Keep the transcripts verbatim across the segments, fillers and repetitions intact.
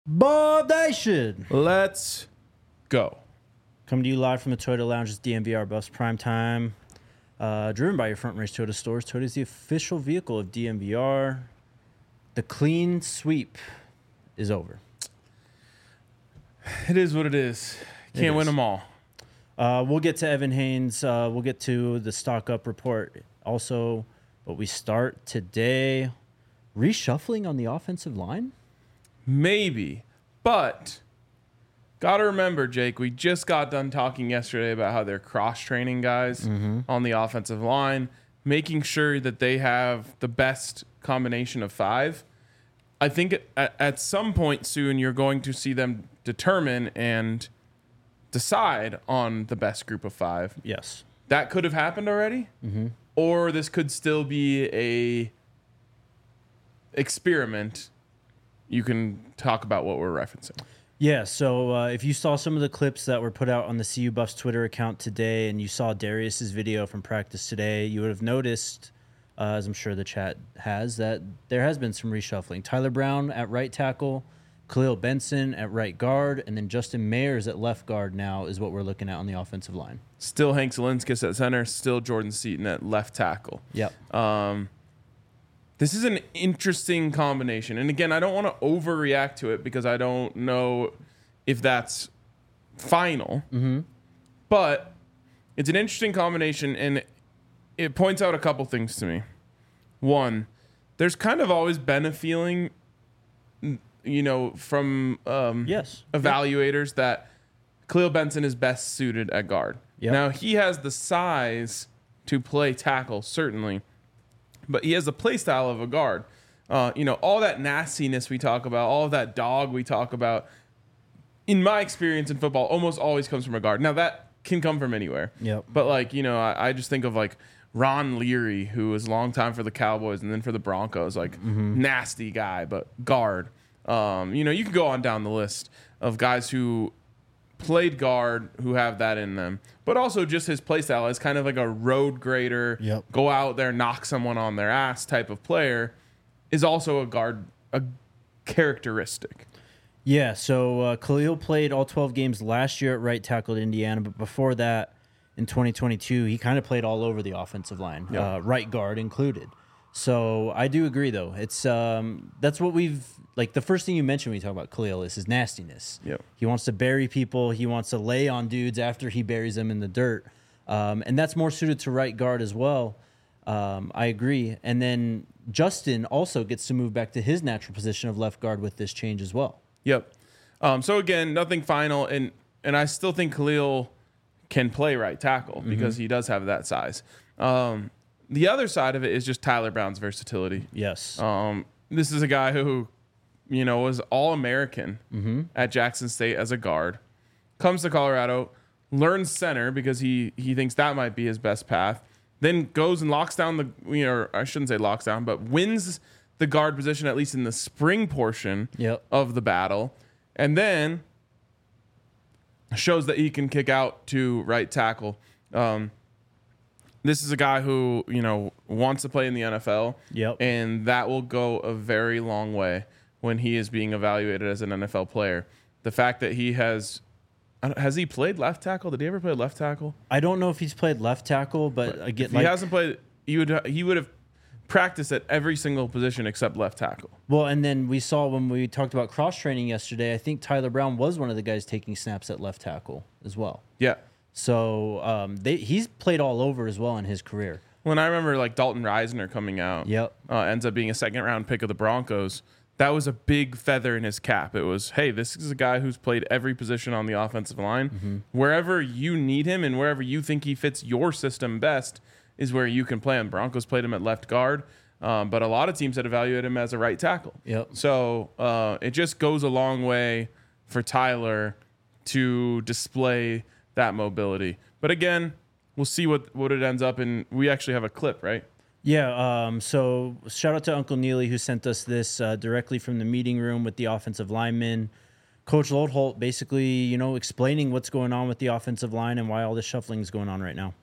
Baldation. Let's go. Coming to you live from the Toyota Lounge's D M V R Buffs Prime Time. Uh, driven by your Front Range Toyota stores. Toyota is the official vehicle of D M V R. The clean sweep is over. It is what it is. Can't It win is. them all. Uh, we'll get to Evan Haynes. Uh, we'll get to the stock up report also. But we start today reshuffling on the offensive line. Maybe. But got to remember, Jake, we just got done talking yesterday about how they're cross-training guys Mm-hmm. on the offensive line, making sure that they have the best combination of five. I think at, at some point soon you're going to see them determine and decide on the best group of five. Yes. That could have happened already, Mm-hmm. or this could still be a experiment. You can talk about what we're referencing. Yeah, so uh, if you saw some of the clips that were put out on the C U Buffs Twitter account today and you saw Darius's video from practice today, you would have noticed, uh, as I'm sure the chat has, that there has been some reshuffling. Tyler Brown at right tackle, Khalil Benson at right guard, and then Justin Mayers at left guard now is what we're looking at on the offensive line. Still Hank Zielinskis at center, still Jordan Seaton at left tackle. Yep. Um, this is an interesting combination. And again, I don't want to overreact to it because I don't know if that's final. Mm-hmm. But it's an interesting combination, and it points out a couple things to me. One, there's kind of always been a feeling, you know, from um, Yes. evaluators that Khalil Benson is best suited at guard. Yep. Now, he has the size to play tackle, certainly, but he has the play style of a guard. Uh, you know, all that nastiness we talk about, all of that dog we talk about, in my experience in football, almost always comes from a guard. Now, that can come from anywhere. Yep. But, like, you know, I, I just think of, like, Ron Leary, who was a long time for the Cowboys and then for the Broncos, like, Mm-hmm. nasty guy, but guard. Um, you know, you can go on down the list of guys who played guard who have that in them, but also just his play style is kind of like a road grader, Yep. go out there, knock someone on their ass type of player is also a guard, a characteristic. Yeah, so uh, Khalil played all twelve games last year at right tackle at Indiana, but before that, in twenty twenty-two, he kind of played all over the offensive line, Yeah. uh, right guard included. So I do agree, though. It's um, that's what we've like. The first thing you mentioned when you talk about Khalil is his nastiness. Yep. He wants to bury people. He wants to lay on dudes after he buries them in the dirt, um, and that's more suited to right guard as well. Um, I agree. And then Justin also gets to move back to his natural position of left guard with this change as well. Yep. Um, so again, nothing final, and and I still think Khalil can play right tackle because he does have that size. Um, the other side of it is just Tyler Brown's versatility. Yes. Um, this is a guy who, you know, was All-American Mm-hmm. at Jackson State as a guard, comes to Colorado, learns center because he he thinks that might be his best path, then goes and locks down the, you know, I shouldn't say locks down, but wins the guard position at least in the spring portion Yep. of the battle, and then shows that he can kick out to right tackle. Um, this is a guy who, you know, wants to play in the N F L. Yep. And that will go a very long way when he is being evaluated as an N F L player. The fact that he has I don't- has he played left tackle? Did he ever play left tackle? I don't know if he's played left tackle, but again, If like, he hasn't played, he would he would have practiced at every single position except left tackle. well, and then we saw when we talked about cross training yesterday. I think Tyler Brown was one of the guys taking snaps at left tackle as well. Yeah. So um, they, he's played all over as well in his career. When I remember like Dalton Reisner coming out, Yep. uh, ends up being a second round pick of the Broncos. That was a big feather in his cap. It was, hey, this is a guy who's played every position on the offensive line. Mm-hmm. Wherever you need him and wherever you think he fits your system best is where you can play him. Broncos played him at left guard, um, but a lot of teams had evaluated him as a right tackle. Yep. So uh, it just goes a long way for Tyler to display that mobility. But again, we'll see what, what it ends up in. We actually have a clip, right? Yeah. Um, so shout out to Uncle Neely who sent us this uh, directly from the meeting room with the offensive linemen. Coach Lodholt basically, you know, explaining what's going on with the offensive line and why all this shuffling is going on right now.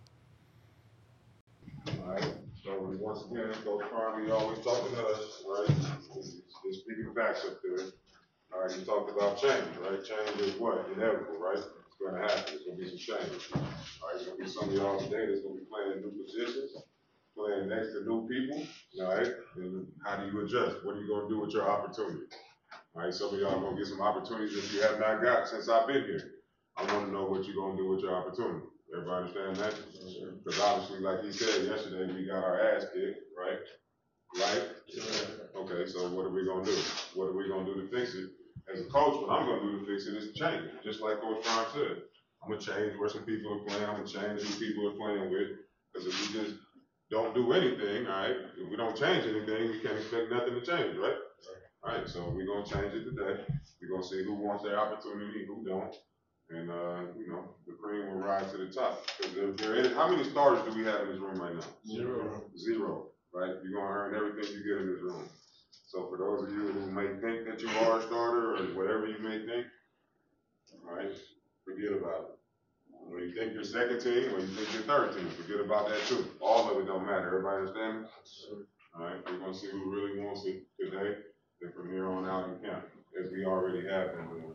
All right. So once again, Coach Farley always talking to us, right? He's, he's speaking facts up there. All right, you talked about change, right? Change is what? Inevitable, right? It's going to happen. There's going to be some change. All right, there's going to be some of y'all today that's going to be playing new positions, playing next to new people, all right? And how do you adjust? What are you going to do with your opportunity? All right, some of y'all are going to get some opportunities that you have not got since I've been here. I want to know what you're going to do with your opportunity. Everybody understand that? Because obviously, like he said yesterday, we got our ass kicked, right? Right? Okay, so what are we going to do? What are we going to do to fix it? As a coach, what I'm going to do to fix it is change it, just like Coach Brown said. I'm going to change where some people are playing. I'm going to change who people are playing with. Because if we just don't do anything, all right, if we don't change anything, we can't expect nothing to change, right? All right, so we're going to change it today. We're going to see who wants their opportunity, who don't. And, uh, you know, the cream will rise to the top. Because there, there is, how many starters do we have in this room right now? Zero. Zero, right? You're going to earn everything you get in this room. So for those of you who may think that you are a starter or whatever you may think, all right, forget about it. When you think you're second team or you think you're third team, forget about that too. All of it don't matter. Everybody understand me? All right, we're going to see who really wants it today and from here on out in camp, as we already have been doing.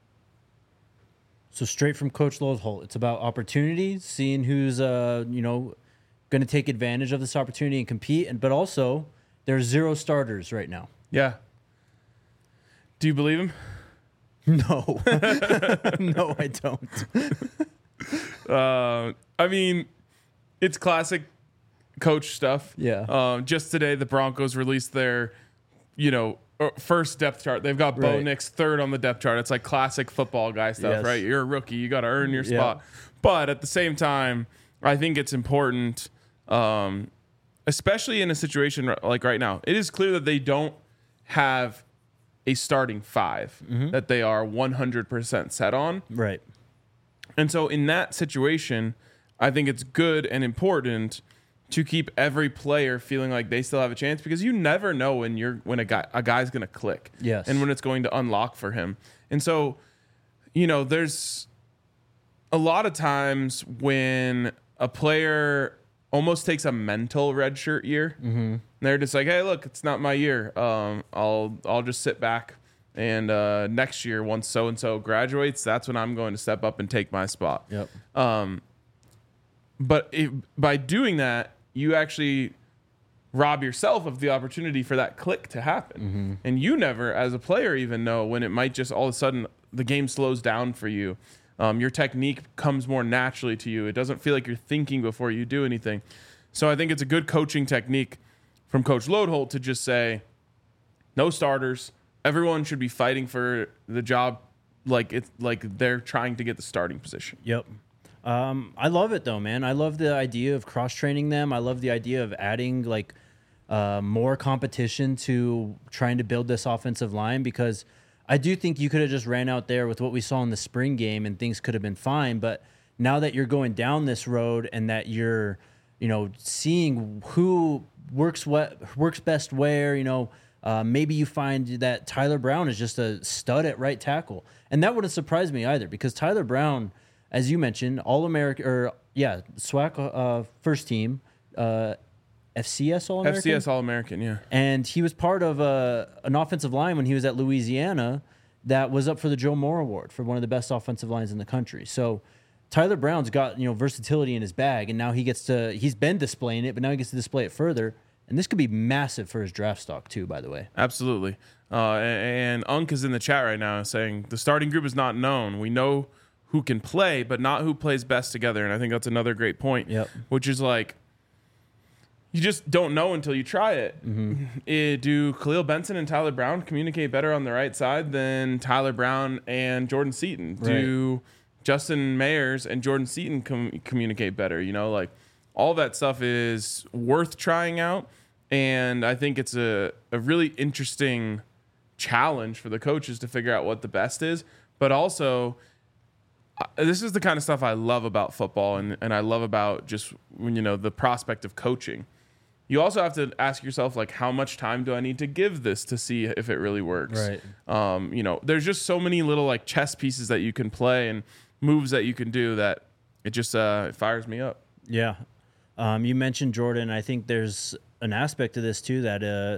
So straight from Coach Lodeholt, it's about opportunity, seeing who's, uh, you know, going to take advantage of this opportunity and compete, and but also there's zero starters right now. Yeah. Do you believe him? No. No, I don't. uh, I mean, it's classic coach stuff. Yeah. Um, just today, the Broncos released their, you know, first depth chart. They've got Bo Right. Nix third on the depth chart. It's like classic football guy stuff, Yes. right? You're a rookie. You got to earn your Yeah. spot. But at the same time, I think it's important, um, especially in a situation like right now. It is clear that they don't have a starting five Mm-hmm. that they are one hundred percent set on. Right. And so in that situation, I think it's good and important to keep every player feeling like they still have a chance, because you never know when you're when a guy a guy's going to click. Yes. And when it's going to unlock for him. And so, you know, there's a lot of times when a player almost takes a mental redshirt year. Mm-hmm. They're just like, hey, look, it's not my year. Um, I'll I'll just sit back. And uh, next year, once so and so graduates, that's when I'm going to step up and take my spot. Yep. Um, but if, by doing that, you actually rob yourself of the opportunity for that click to happen. Mm-hmm. And you never, as a player, even know when it might just all of a sudden the game slows down for you. Um, your technique comes more naturally to you. It doesn't feel like you're thinking before you do anything. So I think it's a good coaching technique from Coach Lodeholt to just say, no starters. Everyone should be fighting for the job like it's like they're trying to get the starting position. Yep. Um, I love it though, man. I love the idea of cross training them. I love the idea of adding like uh, more competition to trying to build this offensive line, because I do think you could have just ran out there with what we saw in the spring game and things could have been fine. But now that you're going down this road and that you're, you know, seeing who works what works best where, you know, uh, maybe you find that Tyler Brown is just a stud at right tackle, and that wouldn't surprise me either, because Tyler Brown, as you mentioned, All American or yeah, SWAC uh, first team, uh, F C S All American. F C S All American, yeah. And he was part of a, an offensive line when he was at Louisiana that was up for the Joe Moore Award for one of the best offensive lines in the country. So Tyler Brown's got, you know, versatility in his bag, and now he gets to, he's been displaying it, but now he gets to display it further. And this could be massive for his draft stock too, by the way. Absolutely. Uh, and, and Unk is in the chat right now saying the starting group is not known. We know who can play, but not who plays best together. And I think that's another great point, Yep. which is like, you just don't know until you try it. Mm-hmm. Eh, do Khalil Benson and Tyler Brown communicate better on the right side than Tyler Brown and Jordan Seaton? Do Justin Mayers and Jordan Seaton com- communicate better? You know, like all that stuff is worth trying out. And I think it's a, a really interesting challenge for the coaches to figure out what the best is. But also, uh, this is the kind of stuff I love about football, and, and I love about just, you know, the prospect of coaching. You also have to ask yourself, like, how much time do I need to give this to see if it really works? Right. Um, you know, there's just so many little, like, chess pieces that you can play and moves that you can do that it just uh, it fires me up. Yeah. Um, you mentioned Jordan. I think there's an aspect to this too that uh,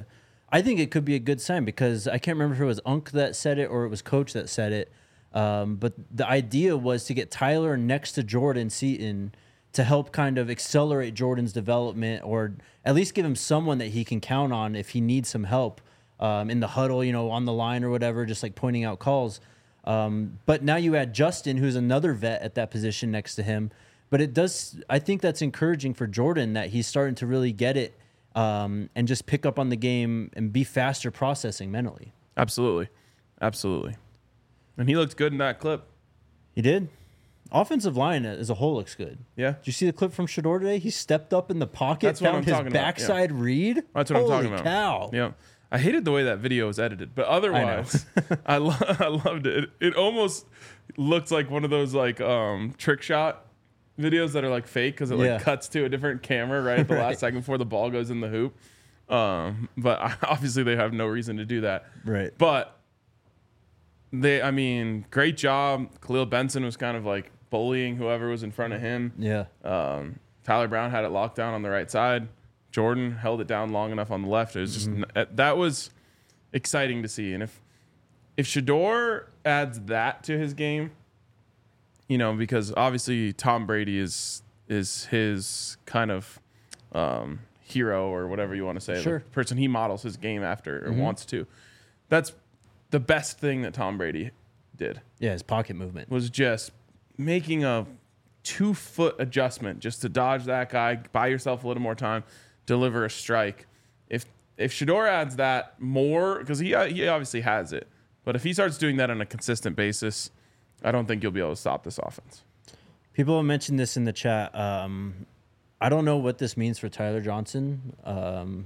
I think it could be a good sign because I can't remember if it was Unk that said it or it was Coach that said it. Um, but the idea was to get Tyler next to Jordan Seaton to help kind of accelerate Jordan's development, or at least give him someone that he can count on if he needs some help um, in the huddle, you know, on the line or whatever, just like pointing out calls. Um, but now you add Justin, who's another vet at that position next to him. But it does, I think that's encouraging for Jordan that he's starting to really get it um, and just pick up on the game and be faster processing mentally. Absolutely. Absolutely. And he looked good in that clip. He did. Offensive line as a whole looks good. Yeah. Did you see the clip from Shedeur today? He stepped up in the pocket, That's what found I'm his talking about, backside yeah. read. That's what Holy I'm talking about. cow. Yeah. I hated the way that video was edited, but otherwise, I, I, lo- I loved it. it. It almost looked like one of those like um, trick shot videos that are like fake because it like Yeah. cuts to a different camera right at the Right. last second before the ball goes in the hoop. Um, but I, obviously, they have no reason to do that. Right. But they, I mean, great job. Khalil Benson was kind of like bullying whoever was in front of him. Yeah. Um, Tyler Brown had it locked down on the right side. Jordan held it down long enough on the left. It was just mm-hmm. that was exciting to see. And if if Shedeur adds that to his game, you know, because obviously Tom Brady is is his kind of um, hero or whatever you want to say, Sure. the person he models his game after or Mm-hmm. wants to. That's the best thing that Tom Brady did. Yeah, his pocket movement. Was just making a two foot adjustment just to dodge that guy, buy yourself a little more time, deliver a strike. If if Shedeur adds that more, because he he obviously has it, but if he starts doing that on a consistent basis, I don't think you'll be able to stop this offense. People have mentioned this in the chat. Um, I don't know what this means for Tyler Johnson. Um,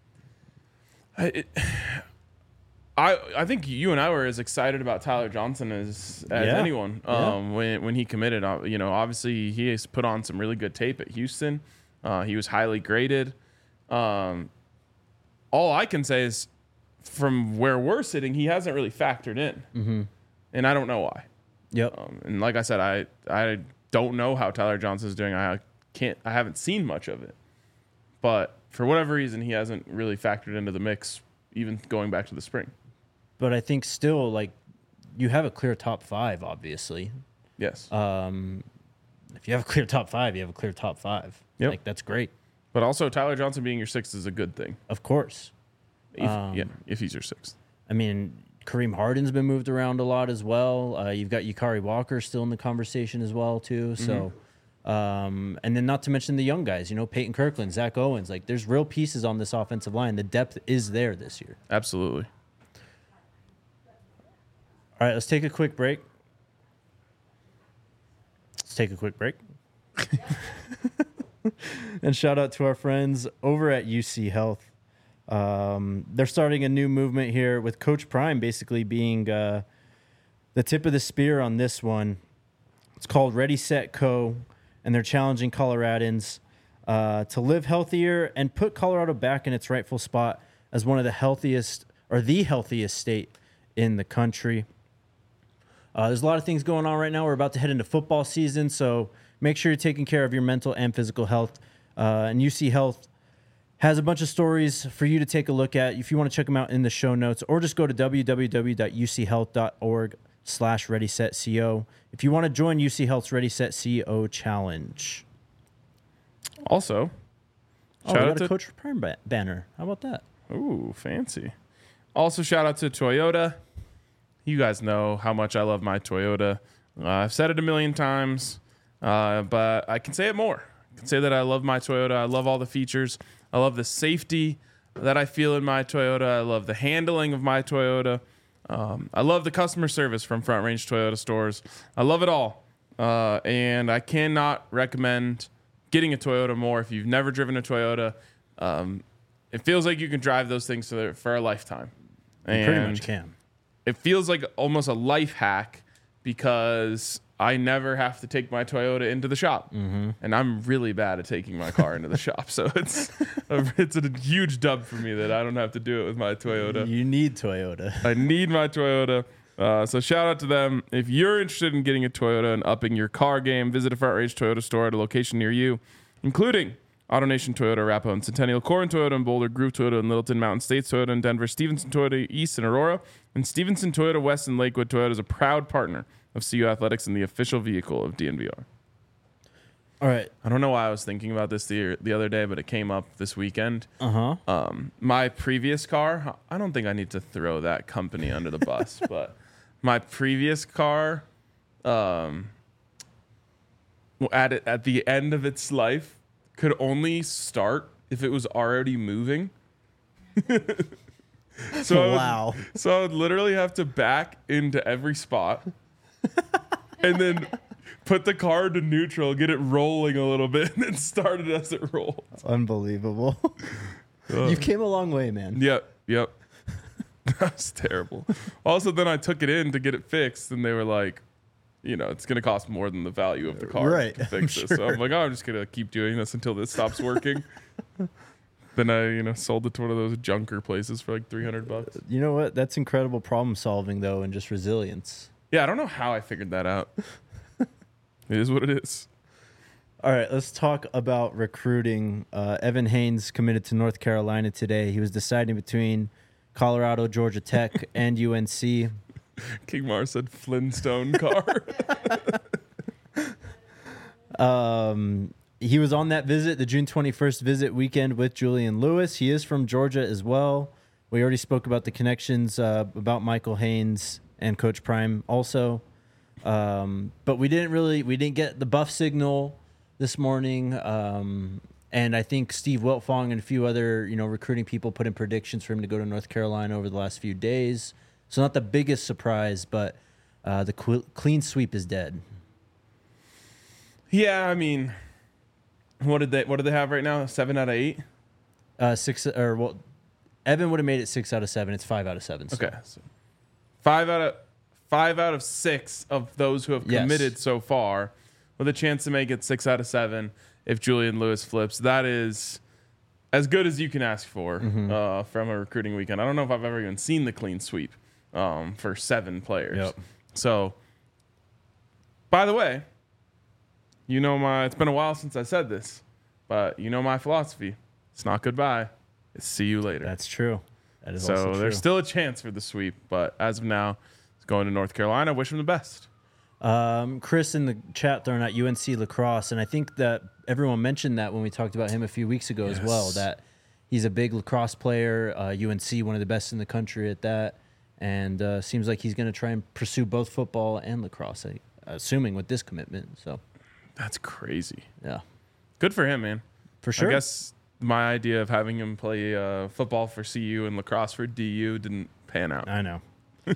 I, it, I I think you and I were as excited about Tyler Johnson as as Yeah. anyone um, Yeah. when when he committed. Uh, you know, obviously he has put on some really good tape at Houston. Uh, he was highly graded. Um, all I can say is, from where we're sitting, he hasn't really factored in, mm-hmm. and I don't know why. Yep. Um, and like I said, I I don't know how Tyler Johnson's doing. I can't. I haven't seen much of it, but for whatever reason, he hasn't really factored into the mix, even going back to the spring. But I think still, like, you have a clear top five, obviously. Yes. Um, if you have a clear top five, you have a clear top five. Yep. Like, that's great. But also, Tyler Johnson being your sixth is a good thing. Of course. If, Um, yeah, if he's your sixth. I mean, Kareem Harden's been moved around a lot as well. Uh, you've got Yukari Walker still in the conversation as well, too. So, um, and then not to mention the young guys, you know, Peyton Kirkland, Zach Owens. Like, there's real pieces on this offensive line. The depth is there this year. Absolutely. All right, let's take a quick break. Let's take a quick break. And shout out to our friends over at U C Health. Um, they're starting a new movement here with Coach Prime basically being uh, the tip of the spear on this one. It's called Ready, Set, Co., and they're challenging Coloradans uh, to live healthier and put Colorado back in its rightful spot as one of the healthiest or the healthiest state in the country. Uh, there's a lot of things going on right now. We're about to head into football season, so make sure you're taking care of your mental and physical health. Uh, and U C Health has a bunch of stories for you to take a look at. If you want to check them out in the show notes, or just go to w w w dot u c health dot org slash ready set co if you want to join U C Health's Ready Set Co challenge. Also, Oh, we got a Coach Prime ba- banner. How about that? Ooh, fancy. Also, shout out to Toyota. You guys know how much I love my Toyota. Uh, I've said it a million times, uh, but I can say it more. I can say that I love my Toyota. I love all the features. I love the safety that I feel in my Toyota. I love the handling of my Toyota. Um, I love the customer service from Front Range Toyota stores. I love it all. Uh, and I cannot recommend getting a Toyota more if you've never driven a Toyota. Um, it feels like you can drive those things for, for a lifetime. You And pretty much can. it feels like almost a life hack because I never have to take my Toyota into the shop. Mm-hmm. And I'm really bad at taking my car into the shop. So it's a, it's a huge dub for me that I don't have to do it with my Toyota. You need Toyota. I need my Toyota. Uh, so shout out to them. If you're interested in getting a Toyota and upping your car game, visit a Front Range Toyota store at a location near you, including AutoNation Toyota, Arapahoe and Centennial, Corin Toyota and Boulder, Groove Toyota and Littleton, Mountain States Toyota in Denver, Stevenson Toyota East in Aurora, and Stevenson Toyota West in Lakewood. Toyota is a proud partner of C U Athletics and the official vehicle of D N V R. All right. I don't know why I was thinking about this the, the other day, but it came up this weekend. Uh-huh. Um, my previous car, I don't think I need to throw that company under the bus, but my previous car, um, at it, at the end of its life, could only start if it was already moving. so I would, Wow. So I would literally have to back into every spot and then put the car into neutral, get it rolling a little bit, and then start it as it rolled. Unbelievable. You came a long way, man. Yep, yep. That's terrible. Also, then I took it in to get it fixed, and they were like, you know, it's going to cost more than the value of the car Right, to fix I'm it. So sure. I'm like, oh, I'm just going to keep doing this until this stops working. Then I, you know, sold it to one of those junker places for like three hundred bucks. You know what? That's incredible problem solving, though, and just resilience. Yeah, I don't know how I figured that out. It is what it is. All right, let's talk about recruiting. Uh, Evan Haynes committed to North Carolina today. He was deciding between Colorado, Georgia Tech, and U N C. King Mar said Flintstone car. Um, he was on that visit, the June twenty-first visit weekend with Julian Lewis. He is from Georgia as well. We already spoke about the connections uh, about Michael Haynes and Coach Prime also. Um, but we didn't really, we didn't get the buff signal this morning. Um, and I think Steve Wiltfong and a few other, you know, recruiting people put in predictions for him to go to North Carolina over the last few days. So not the biggest surprise, but uh, the qu- clean sweep is dead. Yeah, I mean, what did they what do they have right now? Seven out of eight? Uh, six or well, Evan would have made it six out of seven. It's five out of seven. So. Okay. So five out of five out of six of those who have Yes. committed so far, with a chance to make it six out of seven if Julian Lewis flips. That is as good as you can ask for Mm-hmm. uh, from a recruiting weekend. I don't know if I've ever even seen the clean sweep um, for seven players. Yep. So, by the way, you know my. It's been a while since I said this, but you know my philosophy. It's not goodbye. It's see you later. That's true. That is So also true. there's still a chance for the sweep, but as of now, it's going to North Carolina. Wish him the best. Um, Chris in the chat throwing out U N C lacrosse, and I think that everyone mentioned that when we talked about him a few weeks ago as well. Yes. That He's a big lacrosse player. Uh, U N C, one of the best in the country at that, and uh, seems like he's going to try and pursue both football and lacrosse. I, assuming with this commitment. So That's crazy. yeah, Good for him, man. for sure. I guess my idea of having him play uh, football for C U and lacrosse for D U didn't pan out. I know.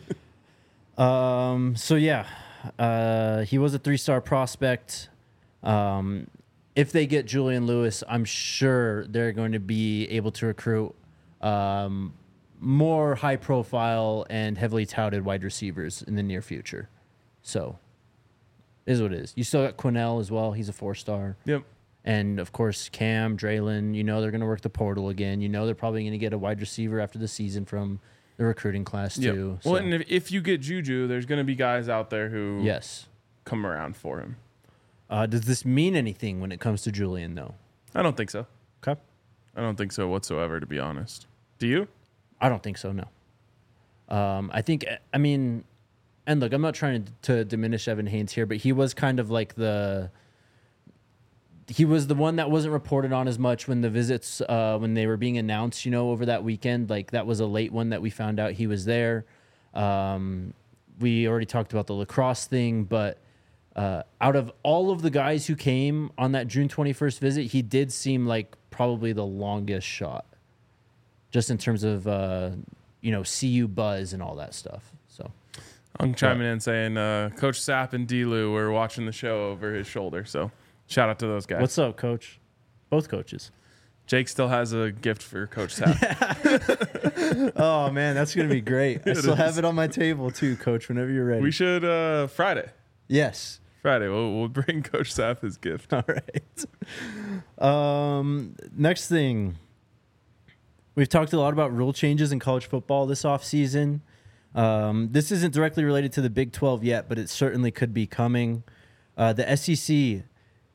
um. So yeah, uh, he was a three-star prospect. Um, if they get Julian Lewis, I'm sure they're going to be able to recruit um, more high-profile and heavily touted wide receivers in the near future. So, it is what it is. You still got Quinnell as well. He's a four-star. Yep. And, of course, Cam, Draylon, you know they're going to work the portal again. You know they're probably going to get a wide receiver after the season from the recruiting class, Yep. too. Well, So, and if, if you get Juju, there's going to be guys out there who yes. come around for him. Uh, does this mean anything when it comes to Julian, though? I don't think so. Okay. I don't think so whatsoever, to be honest. Do you? I don't think so, no. Um, I think, I mean, and look, I'm not trying to, to diminish Evan Haynes here, but he was kind of like the, he was the one that wasn't reported on as much when the visits, uh, when they were being announced, you know, over that weekend. Like, that was a late one that we found out he was there. Um, we already talked about the lacrosse thing, but uh, out of all of the guys who came on that June twenty-first visit, he did seem like probably the longest shot, just in terms of, uh, you know, C U buzz and all that stuff. So I'm chiming in saying uh, Coach Sapp and D-Lou were watching the show over his shoulder. So shout out to those guys. what's up, Coach? Both coaches. Jake still has a gift for Coach Sapp. Oh, man, that's going to be great. I It still have is. it on my table, too, Coach, whenever you're ready. We should, uh, Friday. Yes. Friday, we'll, we'll bring Coach Sapp his gift. All right. Um, next thing. We've talked a lot about rule changes in college football this offseason. Um, this isn't directly related to the Big twelve yet, but it certainly could be coming. Uh, the S E C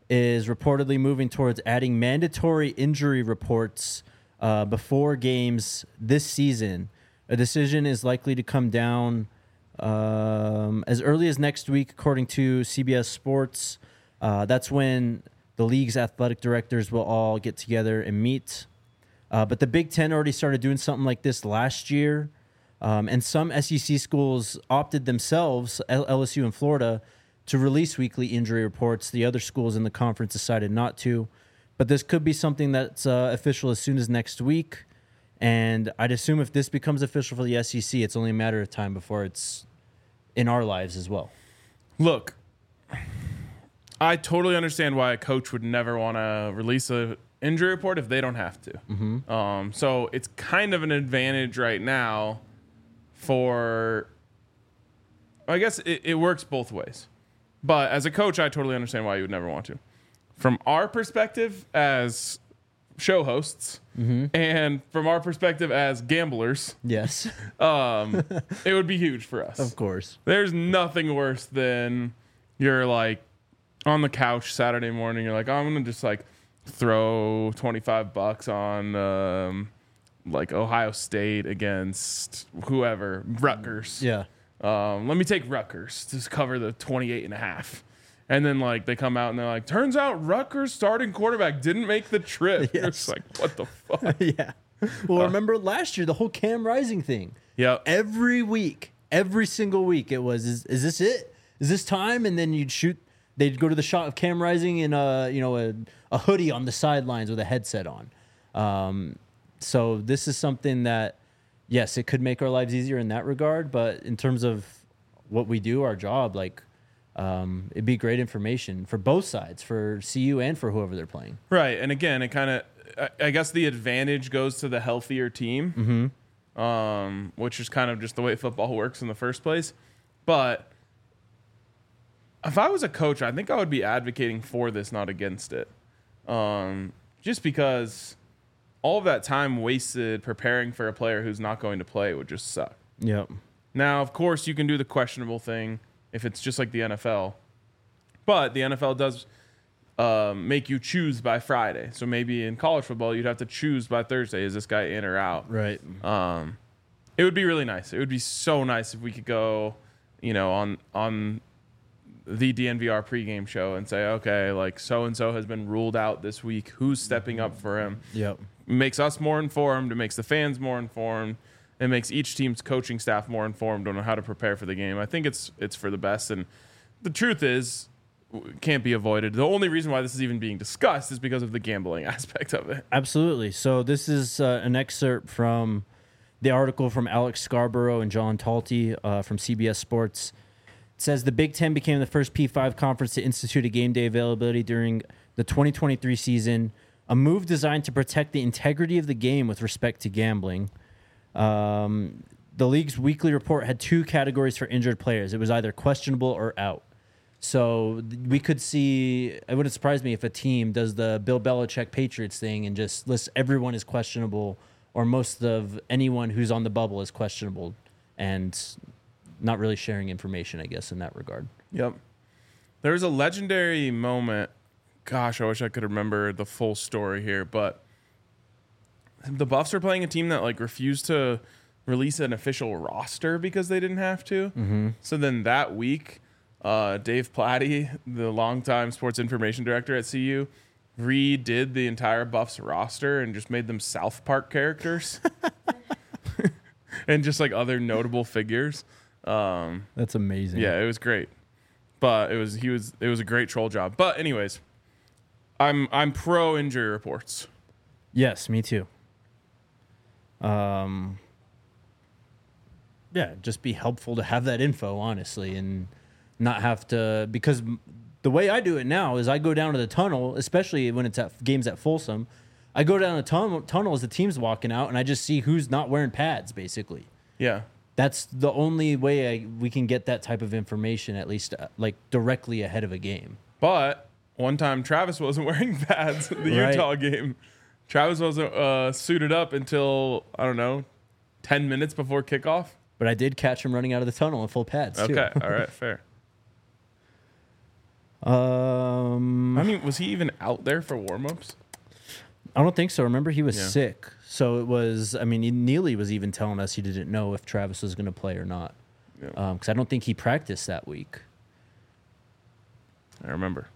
is reportedly moving towards adding mandatory injury reports uh, before games this season. A decision is likely to come down um, as early as next week, according to C B S Sports. Uh, that's when the league's athletic directors will all get together and meet. Uh, but the Big Ten already started doing something like this last year. Um, and some S E C schools opted themselves, L S U and Florida, to release weekly injury reports. The other schools in the conference decided not to. But this could be something that's uh, official as soon as next week. And I'd assume if this becomes official for the S E C, it's only a matter of time before it's in our lives as well. Look, I totally understand why a coach would never want to release a injury report if they don't have to. Mm-hmm. Um, so it's kind of an advantage right now for, I guess it, it works both ways. But as a coach, I totally understand why you would never want to. From our perspective as show hosts, mm-hmm. and from our perspective as gamblers, yes, um, it would be huge for us. Of course. There's nothing worse than you're like on the couch Saturday morning. You're like, oh, I'm gonna just like throw twenty-five bucks on um, like Ohio State against whoever, Rutgers. Yeah. Um, let me take Rutgers to cover the twenty-eight and a half. And then like they come out and they're like, turns out Rutgers starting quarterback didn't make the trip. Yes. It's like, what the fuck? Yeah. Well, remember last year, the whole Cam Rising thing. Yeah. Every week, every single week, it was, is, is this it? Is this time? And then you'd shoot, they'd go to the shot of Cam Rising in a, you know, a, a hoodie on the sidelines with a headset on. Um, so this is something that, yes, it could make our lives easier in that regard. But in terms of what we do, our job, like, um, it'd be great information for both sides, for C U and for whoever they're playing. Right. And again, it kind of, I, I guess the advantage goes to the healthier team, Mm-hmm. um, which is kind of just the way football works in the first place. But if I was a coach, I think I would be advocating for this, not against it. Um, just because all of that time wasted preparing for a player who's not going to play would just suck. Yep. Now, of course, you can do the questionable thing if it's just like the N F L. But the N F L does um, make you choose by Friday. So maybe in college football, you'd have to choose by Thursday. Is this guy in or out? Right. Um, it would be really nice. It would be so nice if we could go, you know, on on the D N V R pregame show and say, okay, like so-and-so has been ruled out this week. Who's stepping up for him? Yep. It makes us more informed. It makes the fans more informed. It makes each team's coaching staff more informed on how to prepare for the game. I think it's it's for the best. And the truth is, it can't be avoided. The only reason why this is even being discussed is because of the gambling aspect of it. Absolutely. So this is uh, an excerpt from the article from Alex Scarborough and John Talty uh, from C B S Sports. It says the Big Ten became the first P five conference to institute a game day availability during the twenty twenty-three season, a move designed to protect the integrity of the game with respect to gambling. Um, the league's weekly report had two categories for injured players. It was either questionable or out. So th- we could see, it wouldn't surprise me if a team does the Bill Belichick Patriots thing and just lists everyone is questionable, or most of anyone who's on the bubble is questionable, and not really sharing information, I guess, in that regard. Yep. There was a legendary moment. Gosh, I wish I could remember the full story here, but the Buffs are playing a team that like refused to release an official roster because they didn't have to. Mm-hmm. So then that week, uh, Dave Platty, the longtime sports information director at C U, redid the entire Buffs roster and just made them South Park characters and just like other notable figures. Um, That's amazing. yeah, it was great, but it was he was it was a great troll job. But anyways, I'm I'm pro injury reports. Yes, me too. Um, yeah, just be helpful to have that info, honestly, and not have to, because the way I do it now is I go down to the tunnel, especially when it's at games at Folsom. I go down the tunnel, tunnel as the team's walking out, and I just see who's not wearing pads, basically. Yeah. That's the only way I, we can get that type of information, at least uh, like directly ahead of a game. But one time Travis wasn't wearing pads in the Right. Utah game. Travis wasn't uh, suited up until, I don't know, ten minutes before kickoff. But I did catch him running out of the tunnel in full pads, too. Okay. All right. Fair. Um, I mean, was he even out there for warmups? I don't think so. Remember, he was Yeah. sick. So it was, I mean, Neely was even telling us he didn't know if Travis was going to play or not. Yeah. Because I don't think he practiced that week. I remember.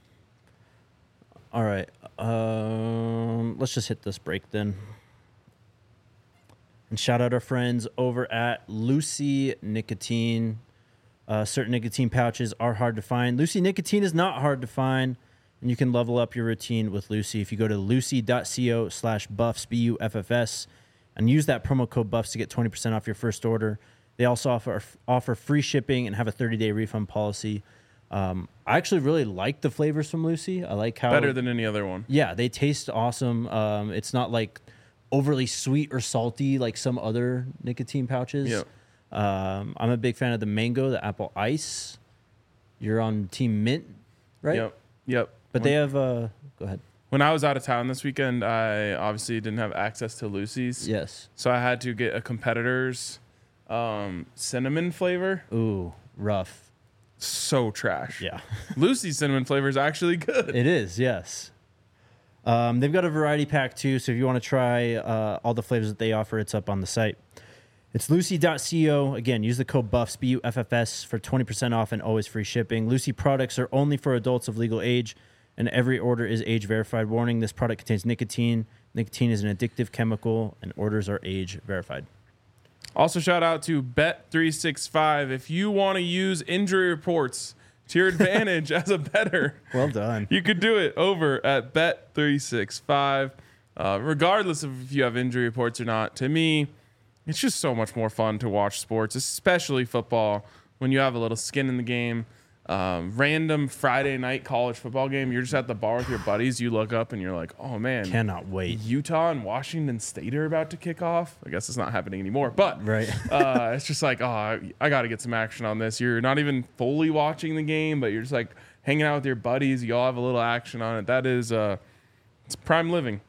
All right. Um, let's just hit this break then. And shout out our friends over at Lucy Nicotine. Uh, certain nicotine pouches are hard to find. Lucy Nicotine is not hard to find. And you can level up your routine with Lucy if you go to lucy.co slash buffs, B U F F S, and use that promo code buffs to get twenty percent off your first order. They also offer offer free shipping and have a thirty-day refund policy. Um, I actually really like the flavors from Lucy. I like how... Better than any other one. Yeah, they taste awesome. Um, it's not like overly sweet or salty like some other nicotine pouches. Yeah. Um, I'm a big fan of the mango, the apple ice. You're on Team Mint, right? Yep. Yep. But they have... Uh, go ahead. When I was out of town this weekend, I obviously didn't have access to Lucy's. Yes. So I had to get a competitor's um, cinnamon flavor. Ooh, rough. So trash. Yeah. Lucy's cinnamon flavor is actually good. It is, yes. Um, they've got a variety pack too, so if you want to try uh, all the flavors that they offer, it's up on the site. It's lucy.co. Again, use the code BUFFS, B U F F S, for twenty percent off and always free shipping. Lucy products are only for adults of legal age, and every order is age verified. Warning, this product contains nicotine. Nicotine is an addictive chemical, and orders are age verified. Also, shout out to Bet three sixty-five. If you want to use injury reports to your advantage as a bettor, Well done. you could do it over at Bet three sixty-five. Uh, regardless of if you have injury reports or not, to me, it's just so much more fun to watch sports, especially football, when you have a little skin in the game. Um, random Friday night college football game, you're just at the bar with your buddies. You look up and you're like, oh, man. Cannot wait. Utah and Washington State are about to kick off. I guess it's not happening anymore, but Right. uh, it's just like, oh, I, I got to get some action on this. You're not even fully watching the game, but you're just like hanging out with your buddies. You all have a little action on it. That is, uh, it's prime living.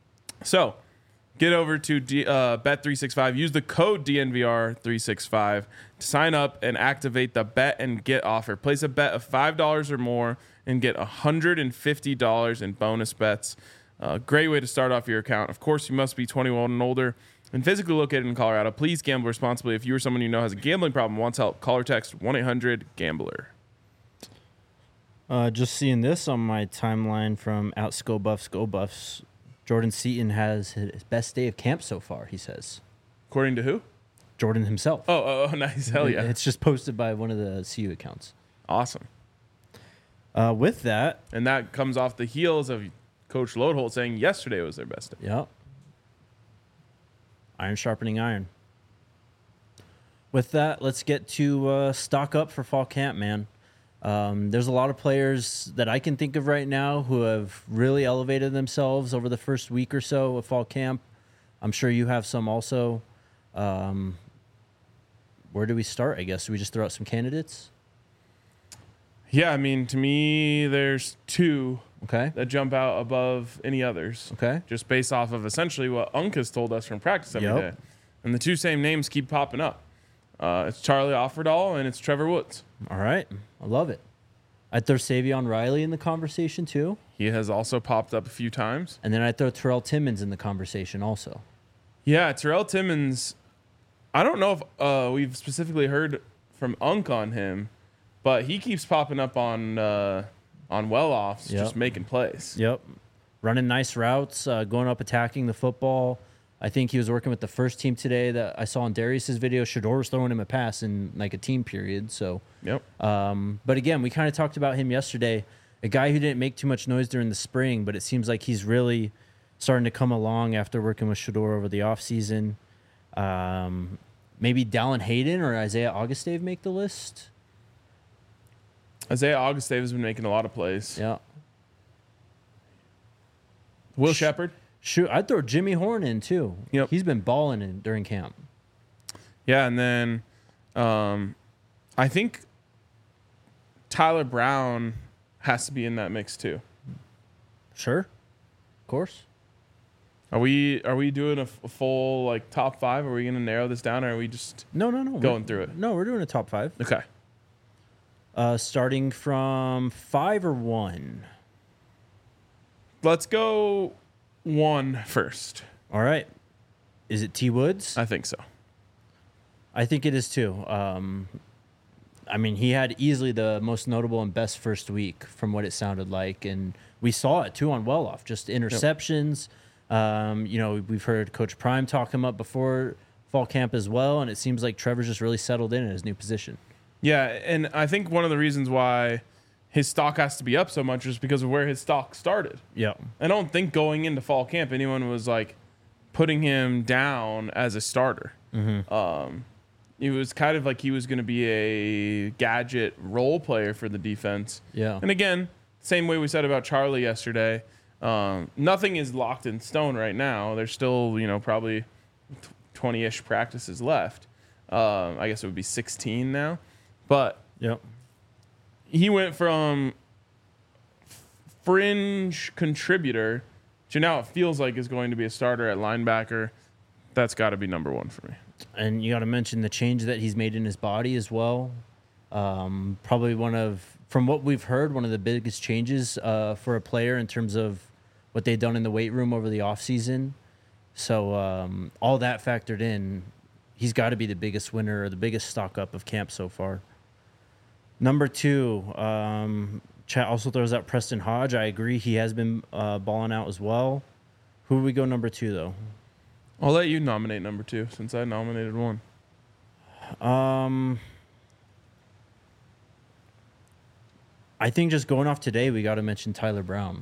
So get over to D, uh, Bet three sixty-five. Use the code D N V R three sixty-five to sign up and activate the bet and get offer. Place a bet of five dollars or more and get one hundred fifty dollars in bonus bets. Uh, great way to start off your account. Of course, you must be twenty-one and older and physically located in Colorado. Please gamble responsibly. If you or someone you know has a gambling problem and wants help, call or text one eight hundred gambler. Uh, just seeing this on my timeline from Out Go Buffs, Go Buffs. Jordan Seaton has his best day of camp so far, he says. According to who? Jordan himself. Oh, oh, oh nice. Hell yeah. It's just posted by one of the C U accounts. Awesome. Uh, with that, And that comes off the heels of Coach Lodeholt saying yesterday was their best day. yeah. Iron sharpening iron. With that, let's get to uh, stock up for fall camp, man. Um, there's a lot of players that I can think of right now who have really elevated themselves over the first week or so of fall camp. I'm sure you have some also. Um, where do we start, I guess? Do we just throw out some candidates? Yeah, I mean, to me, there's two Okay. that jump out above any others. Okay. Just based off of essentially what Unk has told us from practice every day. Yep. And the two same names keep popping up. Uh, it's Charlie Offerdahl and it's Trevor Woods. All right. I love it. I'd throw Savion Riley in the conversation too. He has also popped up a few times. And then I'd throw Terrell Timmons in the conversation also. Yeah, Terrell Timmons, I don't know if uh, we've specifically heard from Unk on him, but he keeps popping up on uh, on well-offs, Yep. just making plays. Yep. Running nice routes, uh, going up, attacking the football. I think he was working with the first team today that I saw in Darius's video. Shador was throwing him a pass in like a team period. So, Yep. um, but again, we kind of talked about him yesterday. A guy who didn't make too much noise during the spring, but it seems like he's really starting to come along after working with Shador over the offseason. Um, maybe Dallin Hayden or Isaiah Augustave make the list. Isaiah Augustave has been making a lot of plays. Yeah. Will Sh- Shepard. Shoot, I'd throw Jimmy Horn in too. Yep. He's been balling in during camp. Yeah, and then um, I think Tyler Brown has to be in that mix too. Sure. Of course. Are we are we doing a, f- a full like top five? Are we going to narrow this down, or are we just No, no, no. going we're- through it? No, we're doing a top five. Okay? Uh, starting from five or one. Let's go one first. All right. Is it T. Woods? I think so. I think it is too. Um, I mean, he had easily the most notable and best first week from what it sounded like. And we saw it too on Well-Off, just interceptions. Yep. Um, you know, we've heard Coach Prime talk him up before fall camp as well. And it seems like Trevor's just really settled in in his new position. Yeah. And I think one of the reasons why his stock has to be up so much is because of where his stock started. Yeah. I don't think going into fall camp, anyone was like putting him down as a starter. Mm-hmm. Um, It was kind of like he was going to be a gadget role player for the defense. Yeah. And again, same way we said about Charlie yesterday, um, nothing is locked in stone right now. There's still, you know, probably twenty-ish practices left. Um, I guess it would be sixteen now. But Yep. he went from fringe contributor to now it feels like is going to be a starter at linebacker. That's got to be number one for me. And you got to mention the change that he's made in his body as well. Um, probably one of, from what we've heard, one of the biggest changes uh, for a player in terms of what they've done in the weight room over the offseason. So um, all that factored in, he's got to be the biggest winner or the biggest stock up of camp so far. Number two, um, chat also throws out Preston Hodge. I agree. He has been uh, balling out as well. Who do we go number two, though? I'll let you nominate number two since I nominated one. Um, I think just going off today, we got to mention Tyler Brown.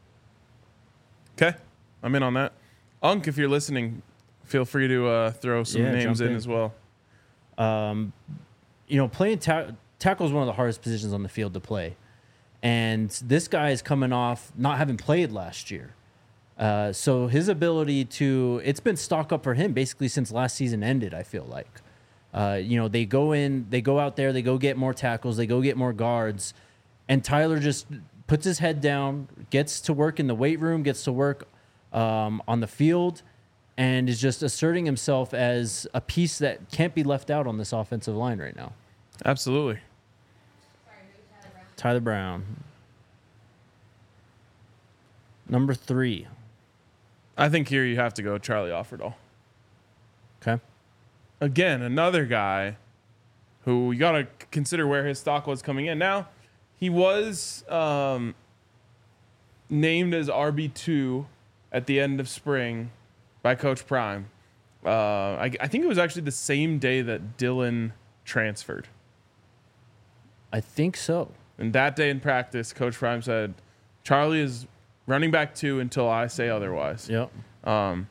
Okay, I'm in on that. Unk, if you're listening, feel free to uh, throw some Yeah, names in, in. as well. Um, you know, playing ta- tackle is one of the hardest positions on the field to play. And this guy is coming off not having played last year. Uh, so his ability to, it's been stock up for him basically since last season ended, I feel like. Uh, you know, they go in, they go out there, they go get more tackles, they go get more guards. And Tyler just puts his head down, gets to work in the weight room, gets to work um, on the field, and is just asserting himself as a piece that can't be left out on this offensive line right now. Absolutely. Tyler Brown. Number three. I think here you have to go Charlie Offerdahl. Okay. Again, another guy who you got to consider where his stock was coming in. Now, he was um, named as R B two at the end of spring by Coach Prime. Uh, I, I think it was actually the same day that Dylan transferred. I think so. And that day in practice, Coach Prime said, Charlie is running back two until I say otherwise. Yep. Um,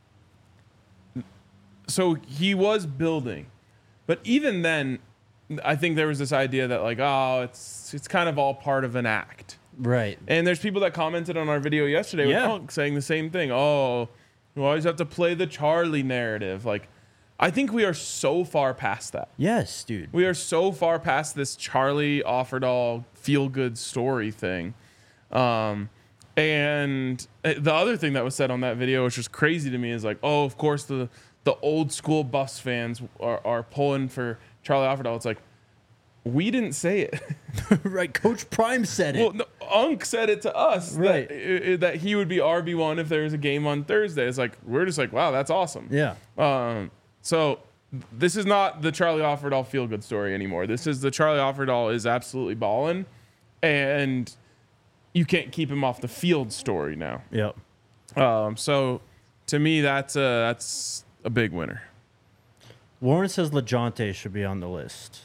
so he was building. But even then, I think there was this idea that, like, oh, it's it's kind of all part of an act. Right. And there's people that commented on our video yesterday Yeah. with Punk saying the same thing. Oh, you always have to play the Charlie narrative. Like, I think we are so far past that. Yes, dude. We are so far past this Charlie Offerdahl feel-good story thing. Um, and the other thing that was said on that video, which was crazy to me, is like, oh, of course the the old school Buffs fans are, are pulling for Charlie Offerdahl. It's like, we didn't say it. Right. Coach Prime said it. Well, no, Unk said it to us Right. that, uh, that he would be R B one if there was a game on Thursday. It's like, we're just like, wow, that's awesome. Yeah. Um, so this is not the Charlie Offerdahl feel-good story anymore. This is the Charlie Offerdahl is absolutely balling, and you can't keep him off the field story now. Yep. Um, so to me, that's a, that's a big winner. Warren says LeJohntay should be on the list.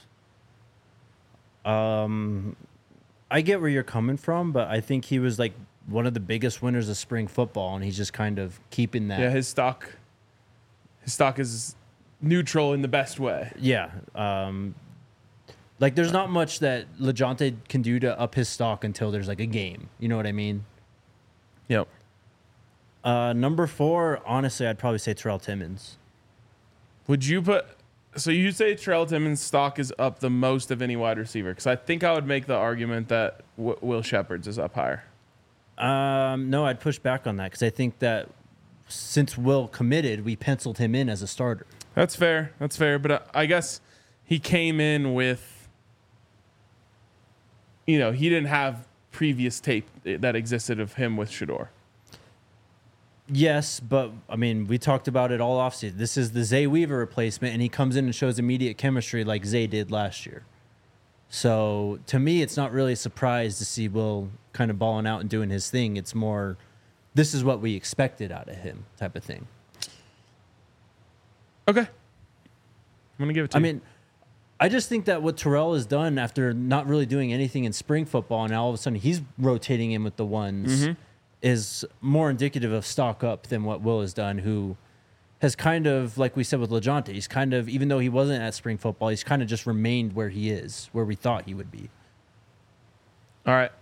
Um, I get where you're coming from, but I think he was like one of the biggest winners of spring football, and he's just kind of keeping that. Yeah, his stock, his stock is neutral in the best way. Yeah. Um, like there's not much that LeJohntay can do to up his stock until there's like a game. You know what I mean? Yep. Uh, number four, honestly, I'd probably say Terrell Timmons. Would you put? So you say Terrell Timmons' stock is up the most of any wide receiver? Because I think I would make the argument that w- Will Shepherd's is up higher. Um, no, I'd push back on that because I think that since Will committed, we penciled him in as a starter. That's fair. That's fair. But I, I guess he came in with you know, he didn't have previous tape that existed of him with Shedeur. Yes, but I mean, we talked about it all offseason. This is the Zay Weaver replacement, and he comes in and shows immediate chemistry like Zay did last year. So to me, it's not really a surprise to see Will kind of balling out and doing his thing. It's more, this is what we expected out of him type of thing. Okay. I'm going to give it to I you. mean, I just think that what Terrell has done after not really doing anything in spring football, and now all of a sudden he's rotating in with the ones, Mm-hmm. is more indicative of stock up than what Will has done, who has kind of, like we said with LeJohntay, he's kind of, even though he wasn't at spring football, he's kind of just remained where he is, where we thought he would be. All right.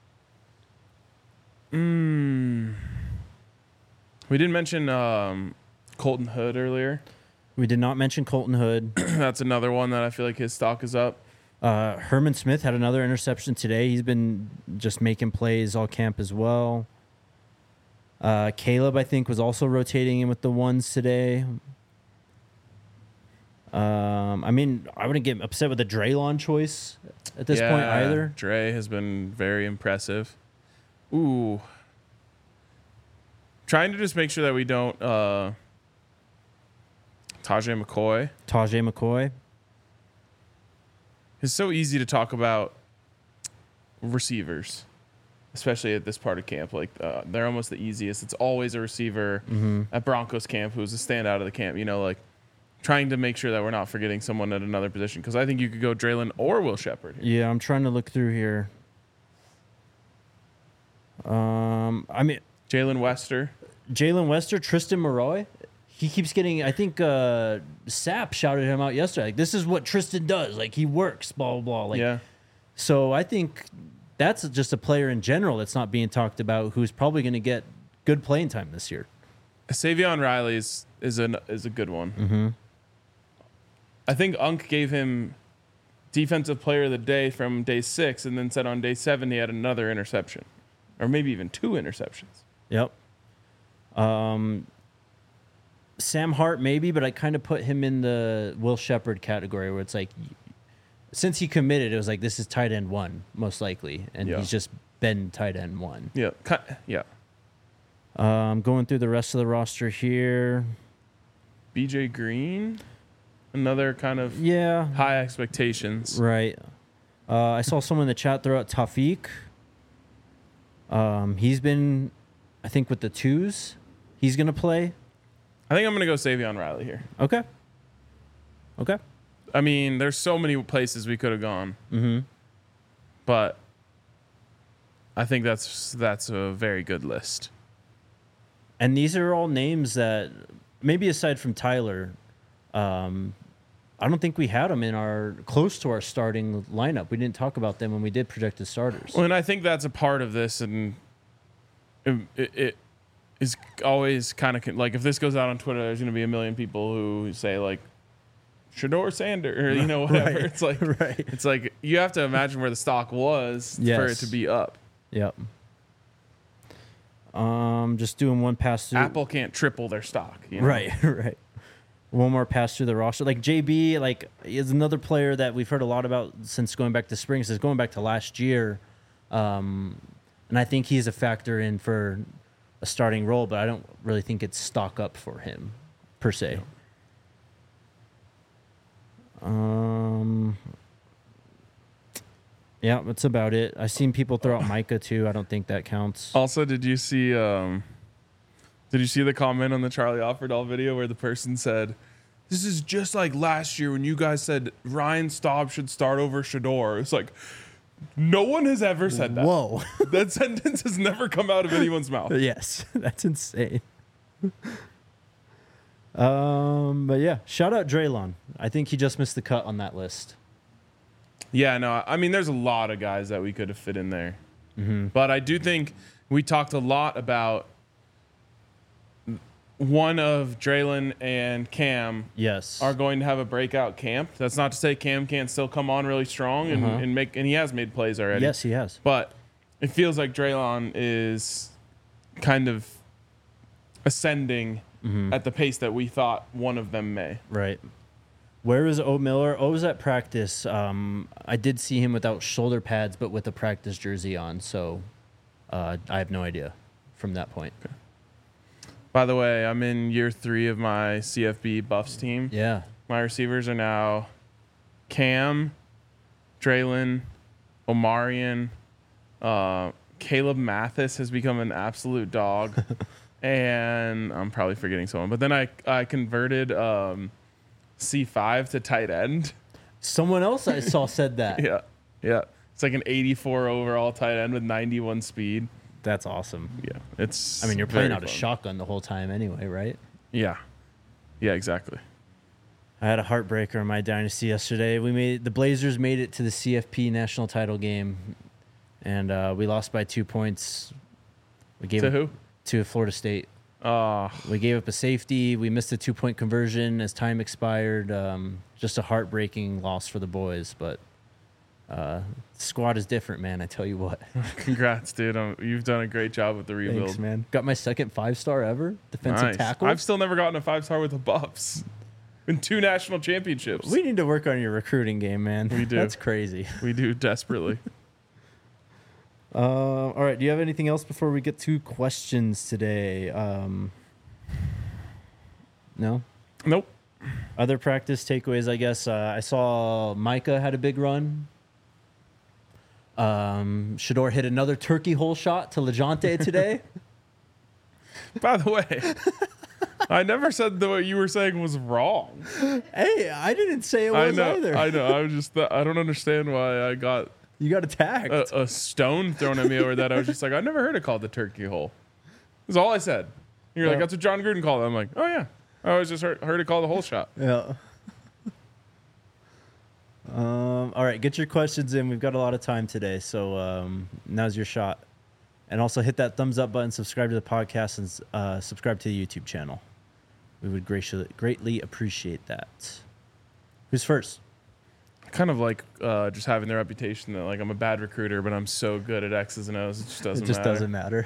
Mm. We didn't mention um, Colton Hood earlier. We did not mention Colton Hood. That's another one that I feel like his stock is up. Uh, Herman Smith had another interception today. He's been just making plays all camp as well. Uh, Caleb, I think, was also rotating in with the ones today. Um, I mean, I wouldn't get upset with the Draylon choice at this point Yeah, either. Dre has been very impressive. Ooh. Trying to just make sure that we don't uh Tajay McCoy. Tajay McCoy. It's so easy to talk about receivers, especially at this part of camp. Like uh, they're almost the easiest. It's always a receiver Mm-hmm. at Broncos camp who's a standout of the camp. You know, like trying to make sure that we're not forgetting someone at another position, because I think you could go Draylon or Will Shepherd here. Yeah, I'm trying to look through here. Um, I mean, Jalen Wester. Jalen Wester, Tristan Maroy. He keeps getting, I think uh, Sapp shouted him out yesterday. Like, this is what Tristan does. Like, he works, blah, blah, blah. Like, Yeah. So I think that's just a player in general that's not being talked about who's probably going to get good playing time this year. Savion Riley is is a is a good one. Mm-hmm. I think Unk gave him defensive player of the day from day six, and then said on day seven he had another interception, or maybe even two interceptions. Yep. Um, Sam Hart maybe, but I kind of put him in the Will Shepherd category where it's like, since he committed, it was like, this is tight end one, most likely. And Yeah. he's just been tight end one. Yeah, ki- yeah. Um, going through the rest of the roster here. B J Green, another kind of Yeah. high expectations. Right. Uh, I saw someone in the chat throw out Tafiq. Um, he's been, I think, with the twos. He's going to play. I think I'm gonna go Savion Riley here. Okay. Okay. I mean, there's so many places we could have gone, Mm-hmm. but I think that's that's a very good list. And these are all names that, maybe aside from Tyler, um, I don't think we had them in our close to our starting lineup. We didn't talk about them when we did projected starters. Well, and I think that's a part of this, and it, it, it is always kind of like, if this goes out on Twitter, there's going to be a million people who say like Shedeur Sander, or you know, whatever. Right. It's like Right. it's like you have to imagine where the stock was for it Yes. to be up. Yep. Um, just doing one pass through. Apple can't triple their stock, you know? Right, right. One more pass through the roster. Like J B, like is another player that we've heard a lot about since going back to spring. Since going back to last year, um, and I think he's a factor in for a starting role. But I don't really think it's stock up for him per se. Um. Yeah, that's about it. I've seen people throw out Micah too. I don't think that counts. Also, did you see um did you see the comment on the Charlie Offerdahl video where the person said, "This is just like last year when you guys said Ryan Staub should start over Shedeur." It's like, no one has ever said that. Whoa. That sentence has never come out of anyone's mouth. Yes, that's insane. um, but yeah, shout out Draylon. I think he just missed the cut on that list. Yeah, no, I mean, there's a lot of guys that we could have fit in there. Mm-hmm. But I do think we talked a lot about one of Draylon and Cam Yes. are going to have a breakout camp. That's not to say Cam can't still come on really strong and, Uh-huh. and make, and he has made plays already. Yes, he has. But it feels like Draylon is kind of ascending Mm-hmm. at the pace that we thought one of them may. Right. Where is O Miller? O was at practice. Um, I did see him without shoulder pads, but with a practice jersey on. So uh, I have no idea from that point. Okay. By the way, I'm in year three of my C F B Buffs team. Yeah. My receivers are now Cam, Draylon, Omarion. Uh, Caleb Mathis has become an absolute dog. And I'm probably forgetting someone. But then I, I converted um, C five to tight end. Someone else I saw said that. Yeah. Yeah. It's like an eighty-four overall tight end with ninety-one speed. That's awesome. Yeah. It's I mean, you're playing very out a fun. shotgun the whole time anyway, right? Yeah. Yeah, exactly. I had a heartbreaker in my dynasty yesterday. We made the Blazers made it to the C F P national title game, and uh, we lost by two points. We gave To up, who? To Florida State. Uh, We gave up a safety. We missed a two-point conversion as time expired. Um, just a heartbreaking loss for the boys, but uh, squad is different, man. I tell you what. congrats, dude. Um, you've done a great job with the rebuild. Thanks, man. Got my second five-star ever defensive Nice. tackle. I've still never gotten a five-star with the Buffs. In two national championships. We need to work on your recruiting game, man. We do. That's crazy. We do desperately. Uh, all right. Do you have anything else before we get to questions today? Um, no? Nope. Other practice takeaways, I guess. Uh, I saw Micah had a big run. Um, Shador hit another turkey hole shot to LeJounte today. By the way, I never said that what you were saying was wrong. Hey, I didn't say it I was know. either. I know. I was just. I don't understand why I got You got attacked. a, a stone thrown at me over that. I was just like, I never heard it called the turkey hole. That's all I said. You're like, Yeah. that's what John Gruden called it. I'm like, oh yeah. I always just heard, heard it called the hole shot. Yeah. um, all right, get your questions in. We've got a lot of time today, so um, now's your shot. And also hit that thumbs up button, subscribe to the podcast, and uh, subscribe to the YouTube channel. We would greatly, greatly appreciate that. Who's first? I kind of like uh, just having the reputation that like I'm a bad recruiter, but I'm so good at X's and O's. It just doesn't it just matter. doesn't matter.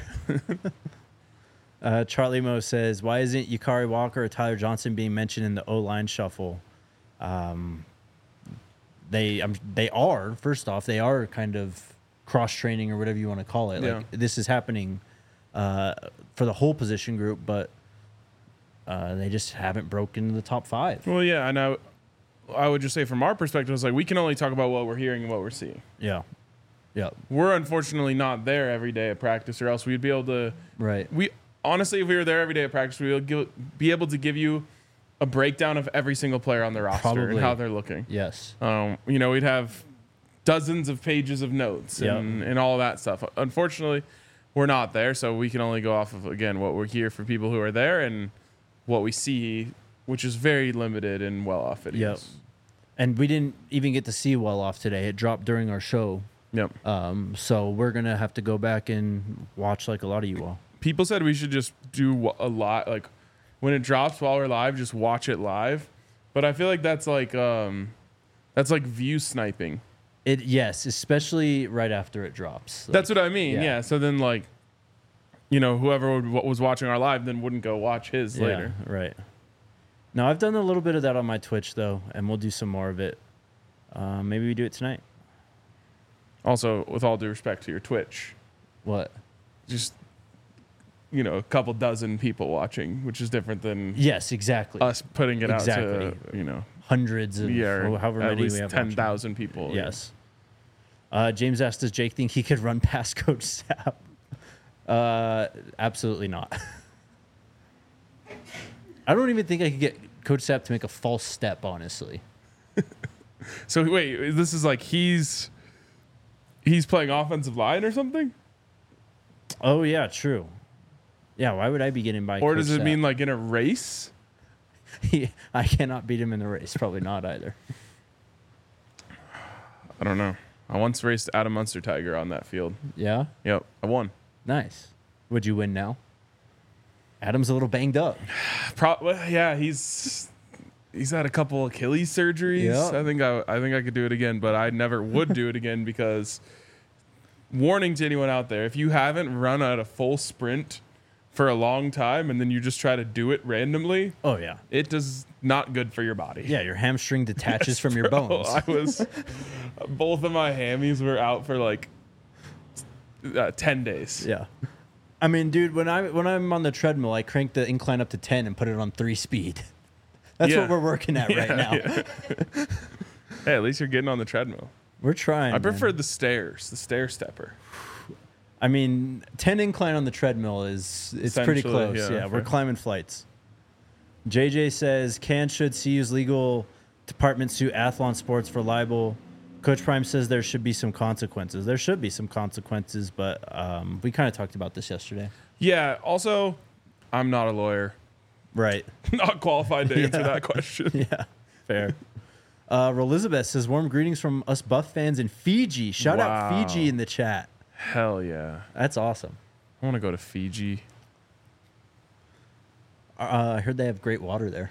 uh, Charlie Mo says, why isn't Yakari Walker or Tyler Johnson being mentioned in the O-line shuffle? Um, they um, they are, first off, they are kind of cross-training or whatever you want to call it. Like, Yeah. this is happening uh, for the whole position group, but uh, they just haven't broken the top five. Well, yeah, and I, I would just say from our perspective, it's like we can only talk about what we're hearing and what we're seeing. Yeah. Yeah. We're unfortunately not there every day at practice, or else we'd be able to. Right. We honestly, if we were there every day at practice, we would give, be able to give you a breakdown of every single player on the roster Probably. and how they're looking. Yes. Um, you know, we'd have dozens of pages of notes Yep. and, and all that stuff. Unfortunately, we're not there, so we can only go off of, again, what we're here for people who are there and what we see, which is very limited and well off videos. Yep. And we didn't even get to see well off today. It dropped during our show. Yep. Um, so we're going to have to go back and watch like a lot of you all. People said we should just do a lot, like when it drops while we're live, just watch it live. But I feel like that's like um, that's like view sniping. It Yes, especially right after it drops. Like, That's what I mean. yeah. Yeah. So then, like, you know, whoever would, was watching our live then wouldn't go watch his yeah, later. right. Now, I've done a little bit of that on my Twitch, though, and we'll do some more of it. Uh, maybe we do it tonight. Also, with all due respect to your Twitch, What? just, you know, a couple dozen people watching, which is different than Yes, exactly. us putting it out Exactly. to, you know, Hundreds of, yeah, or however at many least we have. ten watching. thousand people. Yes. Uh, James asked, does Jake think he could run past Coach Sapp? Uh, absolutely not. I don't even think I could get Coach Sapp to make a false step, honestly. So wait, this is like he's he's playing offensive line or something? Oh, yeah, true. Yeah, why would I be getting by Or Coach does it Sapp? mean like in a race? I cannot beat him in the race. Probably not either. I don't know. I once raced Adam Munster Tiger on that field. Yeah? Yep, I won. Nice. Would you win now? Adam's a little banged up. Pro- well, yeah, he's he's had a couple Achilles surgeries. Yeah. I think I I think I could do it again, but I never would do it again because warning to anyone out there, if you haven't run at a full sprint for a long time and then you just try to do it randomly, Oh yeah. it does not good for your body. Yeah, your hamstring detaches from your Bro, bones. I was both of my hammies were out for like uh, ten days. Yeah. I mean, dude, when I when I'm on the treadmill, I crank the incline up to ten and put it on three speed. That's Yeah. what we're working at right Yeah, now. yeah. Hey, at least you're getting on the treadmill. We're trying. I prefer man. the stairs, the stair stepper. I mean, ten incline on the treadmill is it's pretty Essentially, close. yeah, Yeah, we're for- climbing flights. J J says, "Can should C U's legal department sue Athlon Sports for libel?" Coach Prime says there should be some consequences. There should be some consequences, but um, we kind of talked about this yesterday. Yeah. Also, I'm not a lawyer. Right. Not qualified to answer Yeah. that question. Yeah. Fair. Uh, Elizabeth says, "Warm greetings from us Buff fans in Fiji." Shout out Wow. Fiji in the chat. Hell yeah. That's awesome. I want to go to Fiji. Uh, I heard they have great water there.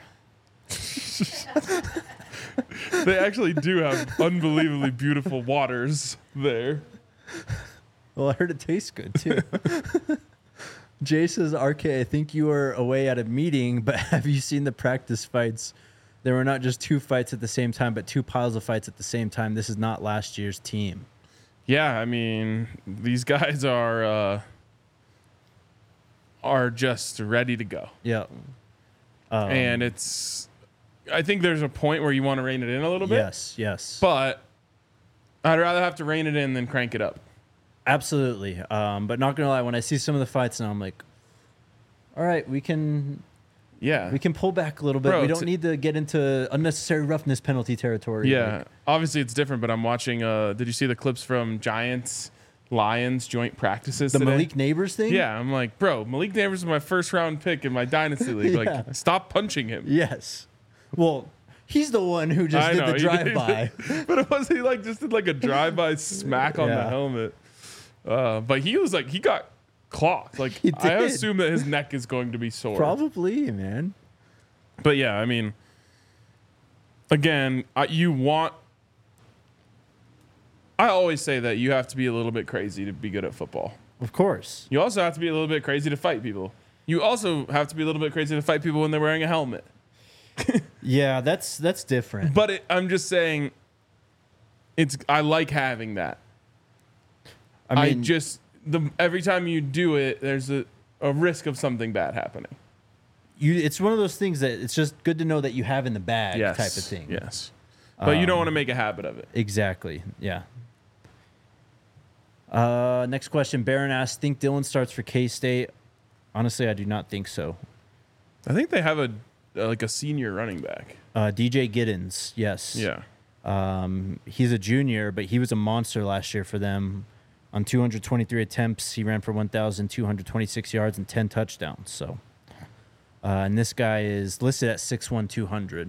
They actually do have unbelievably beautiful waters there. Well, I heard it tastes good too. Jay says, "R K, I think you were away at a meeting, but have you seen the practice fights? There were not just two fights at the same time, but two piles of fights at the same time. This is not last year's team." Yeah, I mean, these guys are uh, are just ready to go. Yeah. Um, and it's I think there's a point where you want to rein it in a little bit. yes, yes. But I'd rather have to rein it in than crank it up. Absolutely. Um, but not gonna lie, when I see some of the fights now, I'm like, all right, we can Yeah. we can pull back a little bit. Bro, we don't t- need to get into unnecessary roughness penalty territory. Yeah. Like, Obviously it's different, but I'm watching uh did you see the clips from Giants Lions joint practices the today? Malik Neighbors thing? Yeah, I'm like, bro, Malik Neighbors is my first round pick in my dynasty league. Yeah. Like, stop punching him. Yes. Well, he's the one who just I did know, the he did. drive-by. But it was he like just did like a drive by smack on the Yeah. helmet. Uh, but he was like he got clocked. Like He I did. assume that his neck is going to be sore. Probably, man. But yeah, I mean, again, I, you want. I always say that you have to be a little bit crazy to be good at football. Of course. You also have to be a little bit crazy to fight people. You also have to be a little bit crazy to fight people when they're wearing a helmet. Yeah, that's that's different. But it, I'm just saying, it's I like having that. I I, mean, just the every time you do it, there's a, a risk of something bad happening. you it's one of those things that it's just good to know that you have in the bag Yes, type of thing. Yes, but you don't Um, want to make a habit of it. Exactly. Yeah. Uh, next question. Baron asks, think Dylan starts for K-State? Honestly, I do not think so. I think they have a uh, like a senior running back. Uh, D J Giddens, yes. Yeah, Um, he's a junior, but he was a monster last year for them. On two hundred twenty-three attempts, he ran for one thousand two hundred twenty-six yards and ten touchdowns. So, uh, and this guy is listed at six one, two hundred.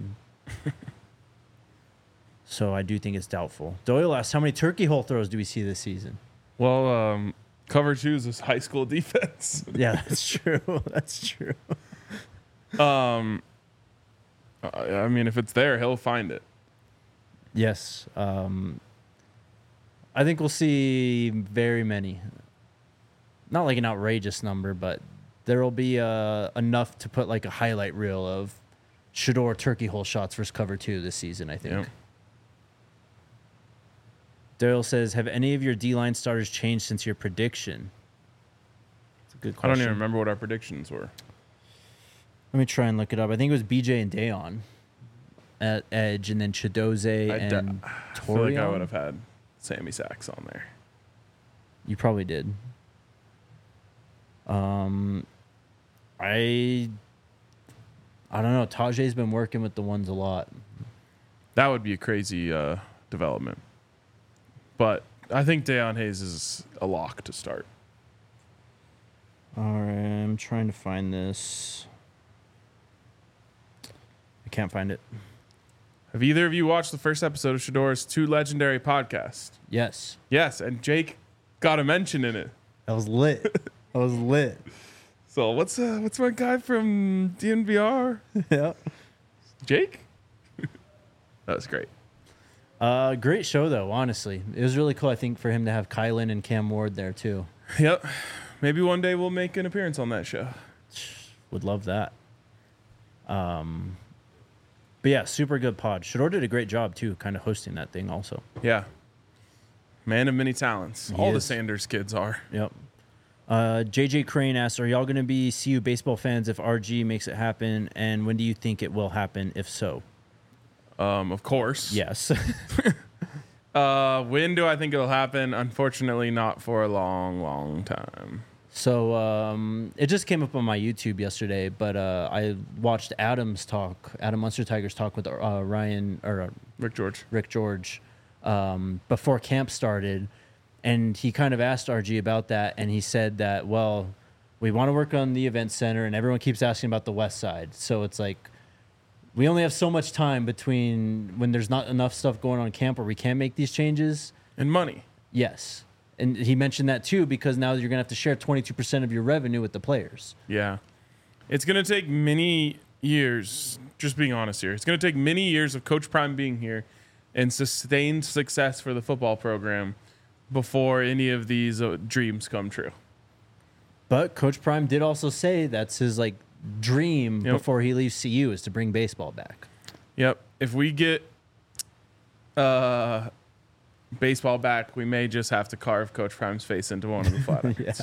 So I do think it's doubtful. Doyle asks, how many turkey hole throws do we see this season? well, um, cover two is high school defense. Yeah, that's true. That's true. um, I I mean, if it's there, he'll find it. Yes. Um, I think we'll see very many. Not like an outrageous number, but there will be uh, enough to put like a highlight reel of Shador turkey hole shots versus cover two this season, I think. Yeah. Daryl says, have any of your D-line starters changed since your prediction? That's a good I question. don't even remember what our predictions were. Let me try and look it up. I think it was B J and Dayon at edge, and then Chidoze I d- and I feel like I Torian. would have had Sammy Sachs on there. You probably did. Um, I I don't know. Tajay's been working with the ones a lot. That would be a crazy uh, development. But I think Deion Hayes is a lock to start. All right, I'm trying to find this. I can't find it. Have either of you watched the first episode of Shador's Two Legendary podcast? Yes, Yes, and Jake got a mention in it. that was lit. That was lit. So what's uh, what's my guy from D N V R? Yeah. Jake? That was great. Uh, great show though. Honestly, it was really cool. I think for him to have Kylan and Cam Ward there too. Yep. Maybe one day we'll make an appearance on that show. Would love that. Um, but yeah, super good pod. Shador did a great job too, kind of hosting that thing also. Yeah. Man of many talents. He All the is. Sanders kids are. Yep. Uh, J J Crane asks, are y'all going to be C U baseball fans if R G makes it happen? And when do you think it will happen, if so? Um, of course. Yes. Uh, when do I think it'll happen? Unfortunately, not for a long, long time. So um, it just came up on my YouTube yesterday, but uh, I watched Adam's talk, Adam Munster Tigers talk with uh, Ryan or uh, Rick George. Rick George um, before camp started, and he kind of asked R G about that, and he said that, well, we want to work on the event center, and everyone keeps asking about the west side, so it's like we only have so much time between when there's not enough stuff going on in camp where we can make these changes. And money. Yes. And he mentioned that too, because now you're going to have to share twenty-two percent of your revenue with the players. Yeah. It's going to take many years, just being honest here. It's going to take many years of Coach Prime being here and sustained success for the football program before any of these uh, dreams come true. But Coach Prime did also say that's his like dream Yep. before he leaves C U is to bring baseball back. Yep. If we get uh, baseball back, we may just have to carve Coach Prime's face into one of the flat irons.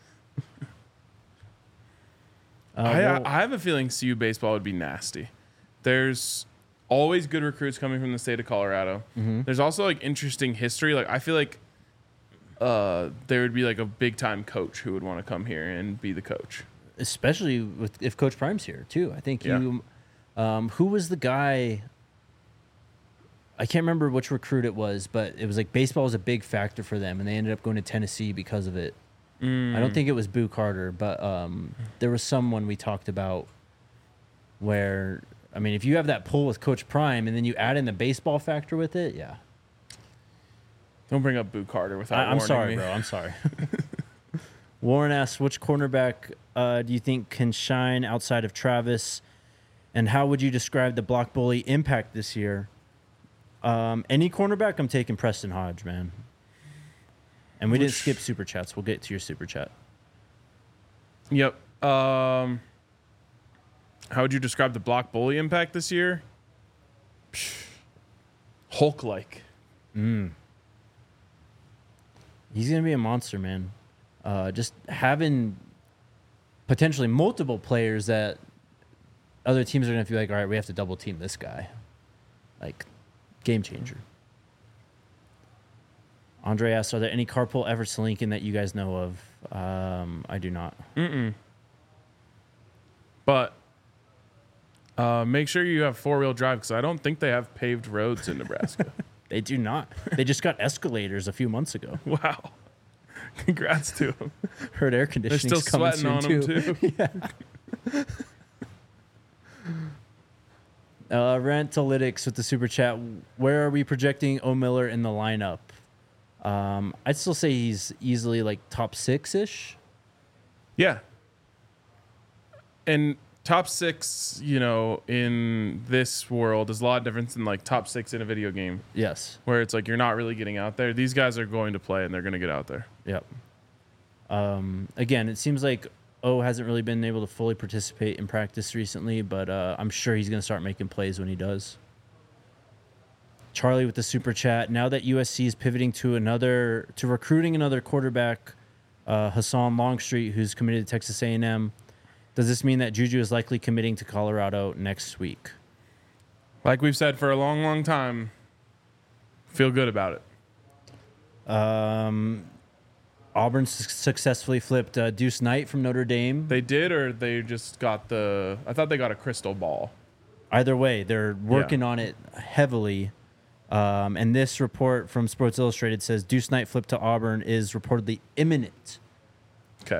Uh, I, well, I have a feeling C U baseball would be nasty. There's always good recruits coming from the state of Colorado. Mm-hmm. There's also like interesting history. Like I feel like uh, there would be like a big time coach who would want to come here and be the coach. especially with if Coach Prime's here too. I think Yeah. you, um, who was the guy? I can't remember which recruit it was, but it was like baseball was a big factor for them, and they ended up going to Tennessee because of it. Mm. I don't think it was Boo Carter, but um, there was someone we talked about where, I mean, if you have that pull with Coach Prime and then you add in the baseball factor with it, yeah. Don't bring up Boo Carter without I, I'm warning sorry, me. bro. I'm sorry. Warren asks, which cornerback uh, do you think can shine outside of Travis? And how would you describe the block bully impact this year? Um, any cornerback, I'm taking Preston Hodge, man. And we didn't Which- skip super chats. We'll get to your super chat. Yep. Um, how would you describe the block bully impact this year? Hulk like. Mm. He's going to be a monster, man. Uh, just having potentially multiple players that other teams are going to feel like, all right, we have to double team this guy. Like, game changer. Andre asks, are there any carpool efforts to Lincoln that you guys know of? Um, I do not. Mm-mm. But uh, make sure you have four wheel drive because I don't think they have paved roads in Nebraska. They do not. They just got escalators a few months ago. Wow. Congrats to them. Heard air They're conditioning's still coming sweating soon on them too. yeah. Uh, Rantalytics with the super chat. Where are we projecting O. Miller in the lineup? Um, I'd still say he's easily like top six ish. Yeah. And top six, you know, in this world is a lot different than like top six in a video game Yes. where it's like you're not really getting out there. These guys are going to play and they're going to get out there. Yep. Um, again, it seems like O hasn't really been able to fully participate in practice recently, but uh, I'm sure he's going to start making plays when he does. Charlie with the super chat. Now that U S C is pivoting to another to recruiting another quarterback, uh, Hassan Longstreet, who's committed to Texas A and M, does this mean that Juju is likely committing to Colorado next week? Like we've said for a long, long time, feel good about it. Um, Auburn su- successfully flipped uh, Deuce Knight from Notre Dame. They did, or they just got the. I thought they got a crystal ball. Either way, they're working Yeah. on it heavily. Um, and this report from Sports Illustrated says Deuce Knight flip to Auburn is reportedly imminent. Okay.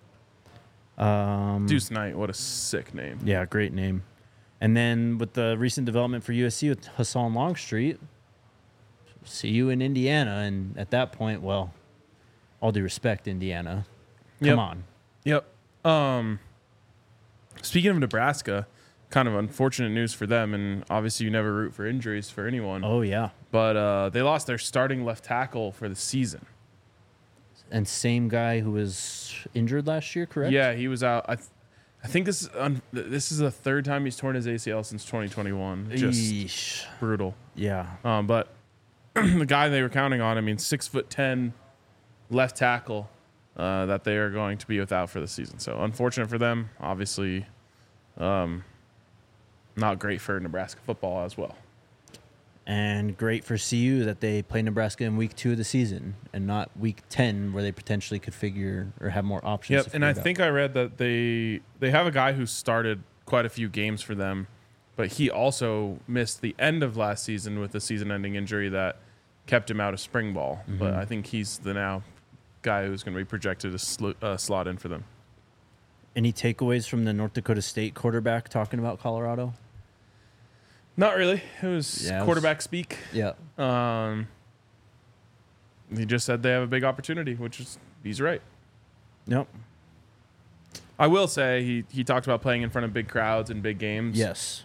Um, Deuce Knight, what a sick name. Yeah, great name. And then with the recent development for U S C with Hassan Longstreet, see you in Indiana. And at that point, well, all due respect, Indiana. Come Yep. on. Yep. Um. Speaking of Nebraska, kind of unfortunate news for them, and obviously you never root for injuries for anyone. Oh, yeah. But uh, they lost their starting left tackle for the season. and same guy who was injured last year, correct? Yeah, he was out. I, th- I think this is un- this is the third time he's torn his A C L since twenty twenty-one. Just Eesh. brutal. Yeah. Um, but the guy they were counting on, I mean, six foot ten left tackle uh, that they are going to be without for the season. So unfortunate for them. Obviously, um, not great for Nebraska football as well. And great for C U that they play Nebraska in week two of the season and not week ten where they potentially could figure or have more options. Yep, to and I figure it out. think I read that they they have a guy who started quite a few games for them, but he also missed the end of last season with a season-ending injury that kept him out of spring ball. Mm-hmm. But I think he's the now guy who's going to be projected to sl- uh, slot in for them. Any takeaways from the North Dakota State quarterback talking about Colorado? Not really. It was Yeah, it was- quarterback speak. Yeah. Um, he just said they have a big opportunity, which is he's right. Nope. I will say he he talked about playing in front of big crowds and big games. Yes.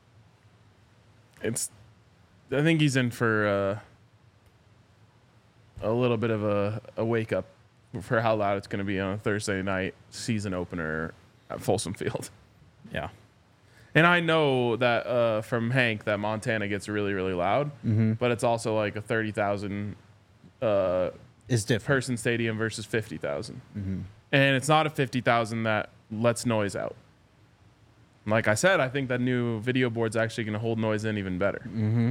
It's I think he's in for uh, a little bit of a, a wake up for how loud it's going to be on a Thursday night season opener at Folsom Field. Yeah. And I know that uh, from Hank that Montana gets really, really loud, Mm-hmm. but it's also like a thirty thousand uh, It's different. person stadium versus fifty thousand. Mm-hmm. And it's not a fifty thousand that lets noise out. Like I said, I think that new video board's actually going to hold noise in even better. Mm-hmm.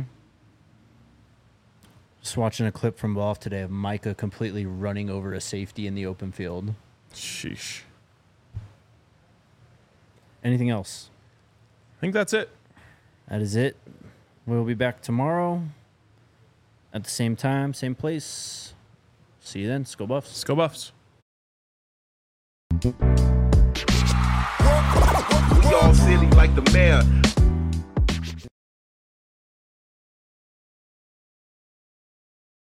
Just watching a clip from Boff today of Micah completely running over a safety in the open field. Sheesh. Anything else? I think that's it. That is it. We'll be back tomorrow at the same time, same place. See you then. Let's go Buffs. Let's go Buffs. We all silly like the mayor.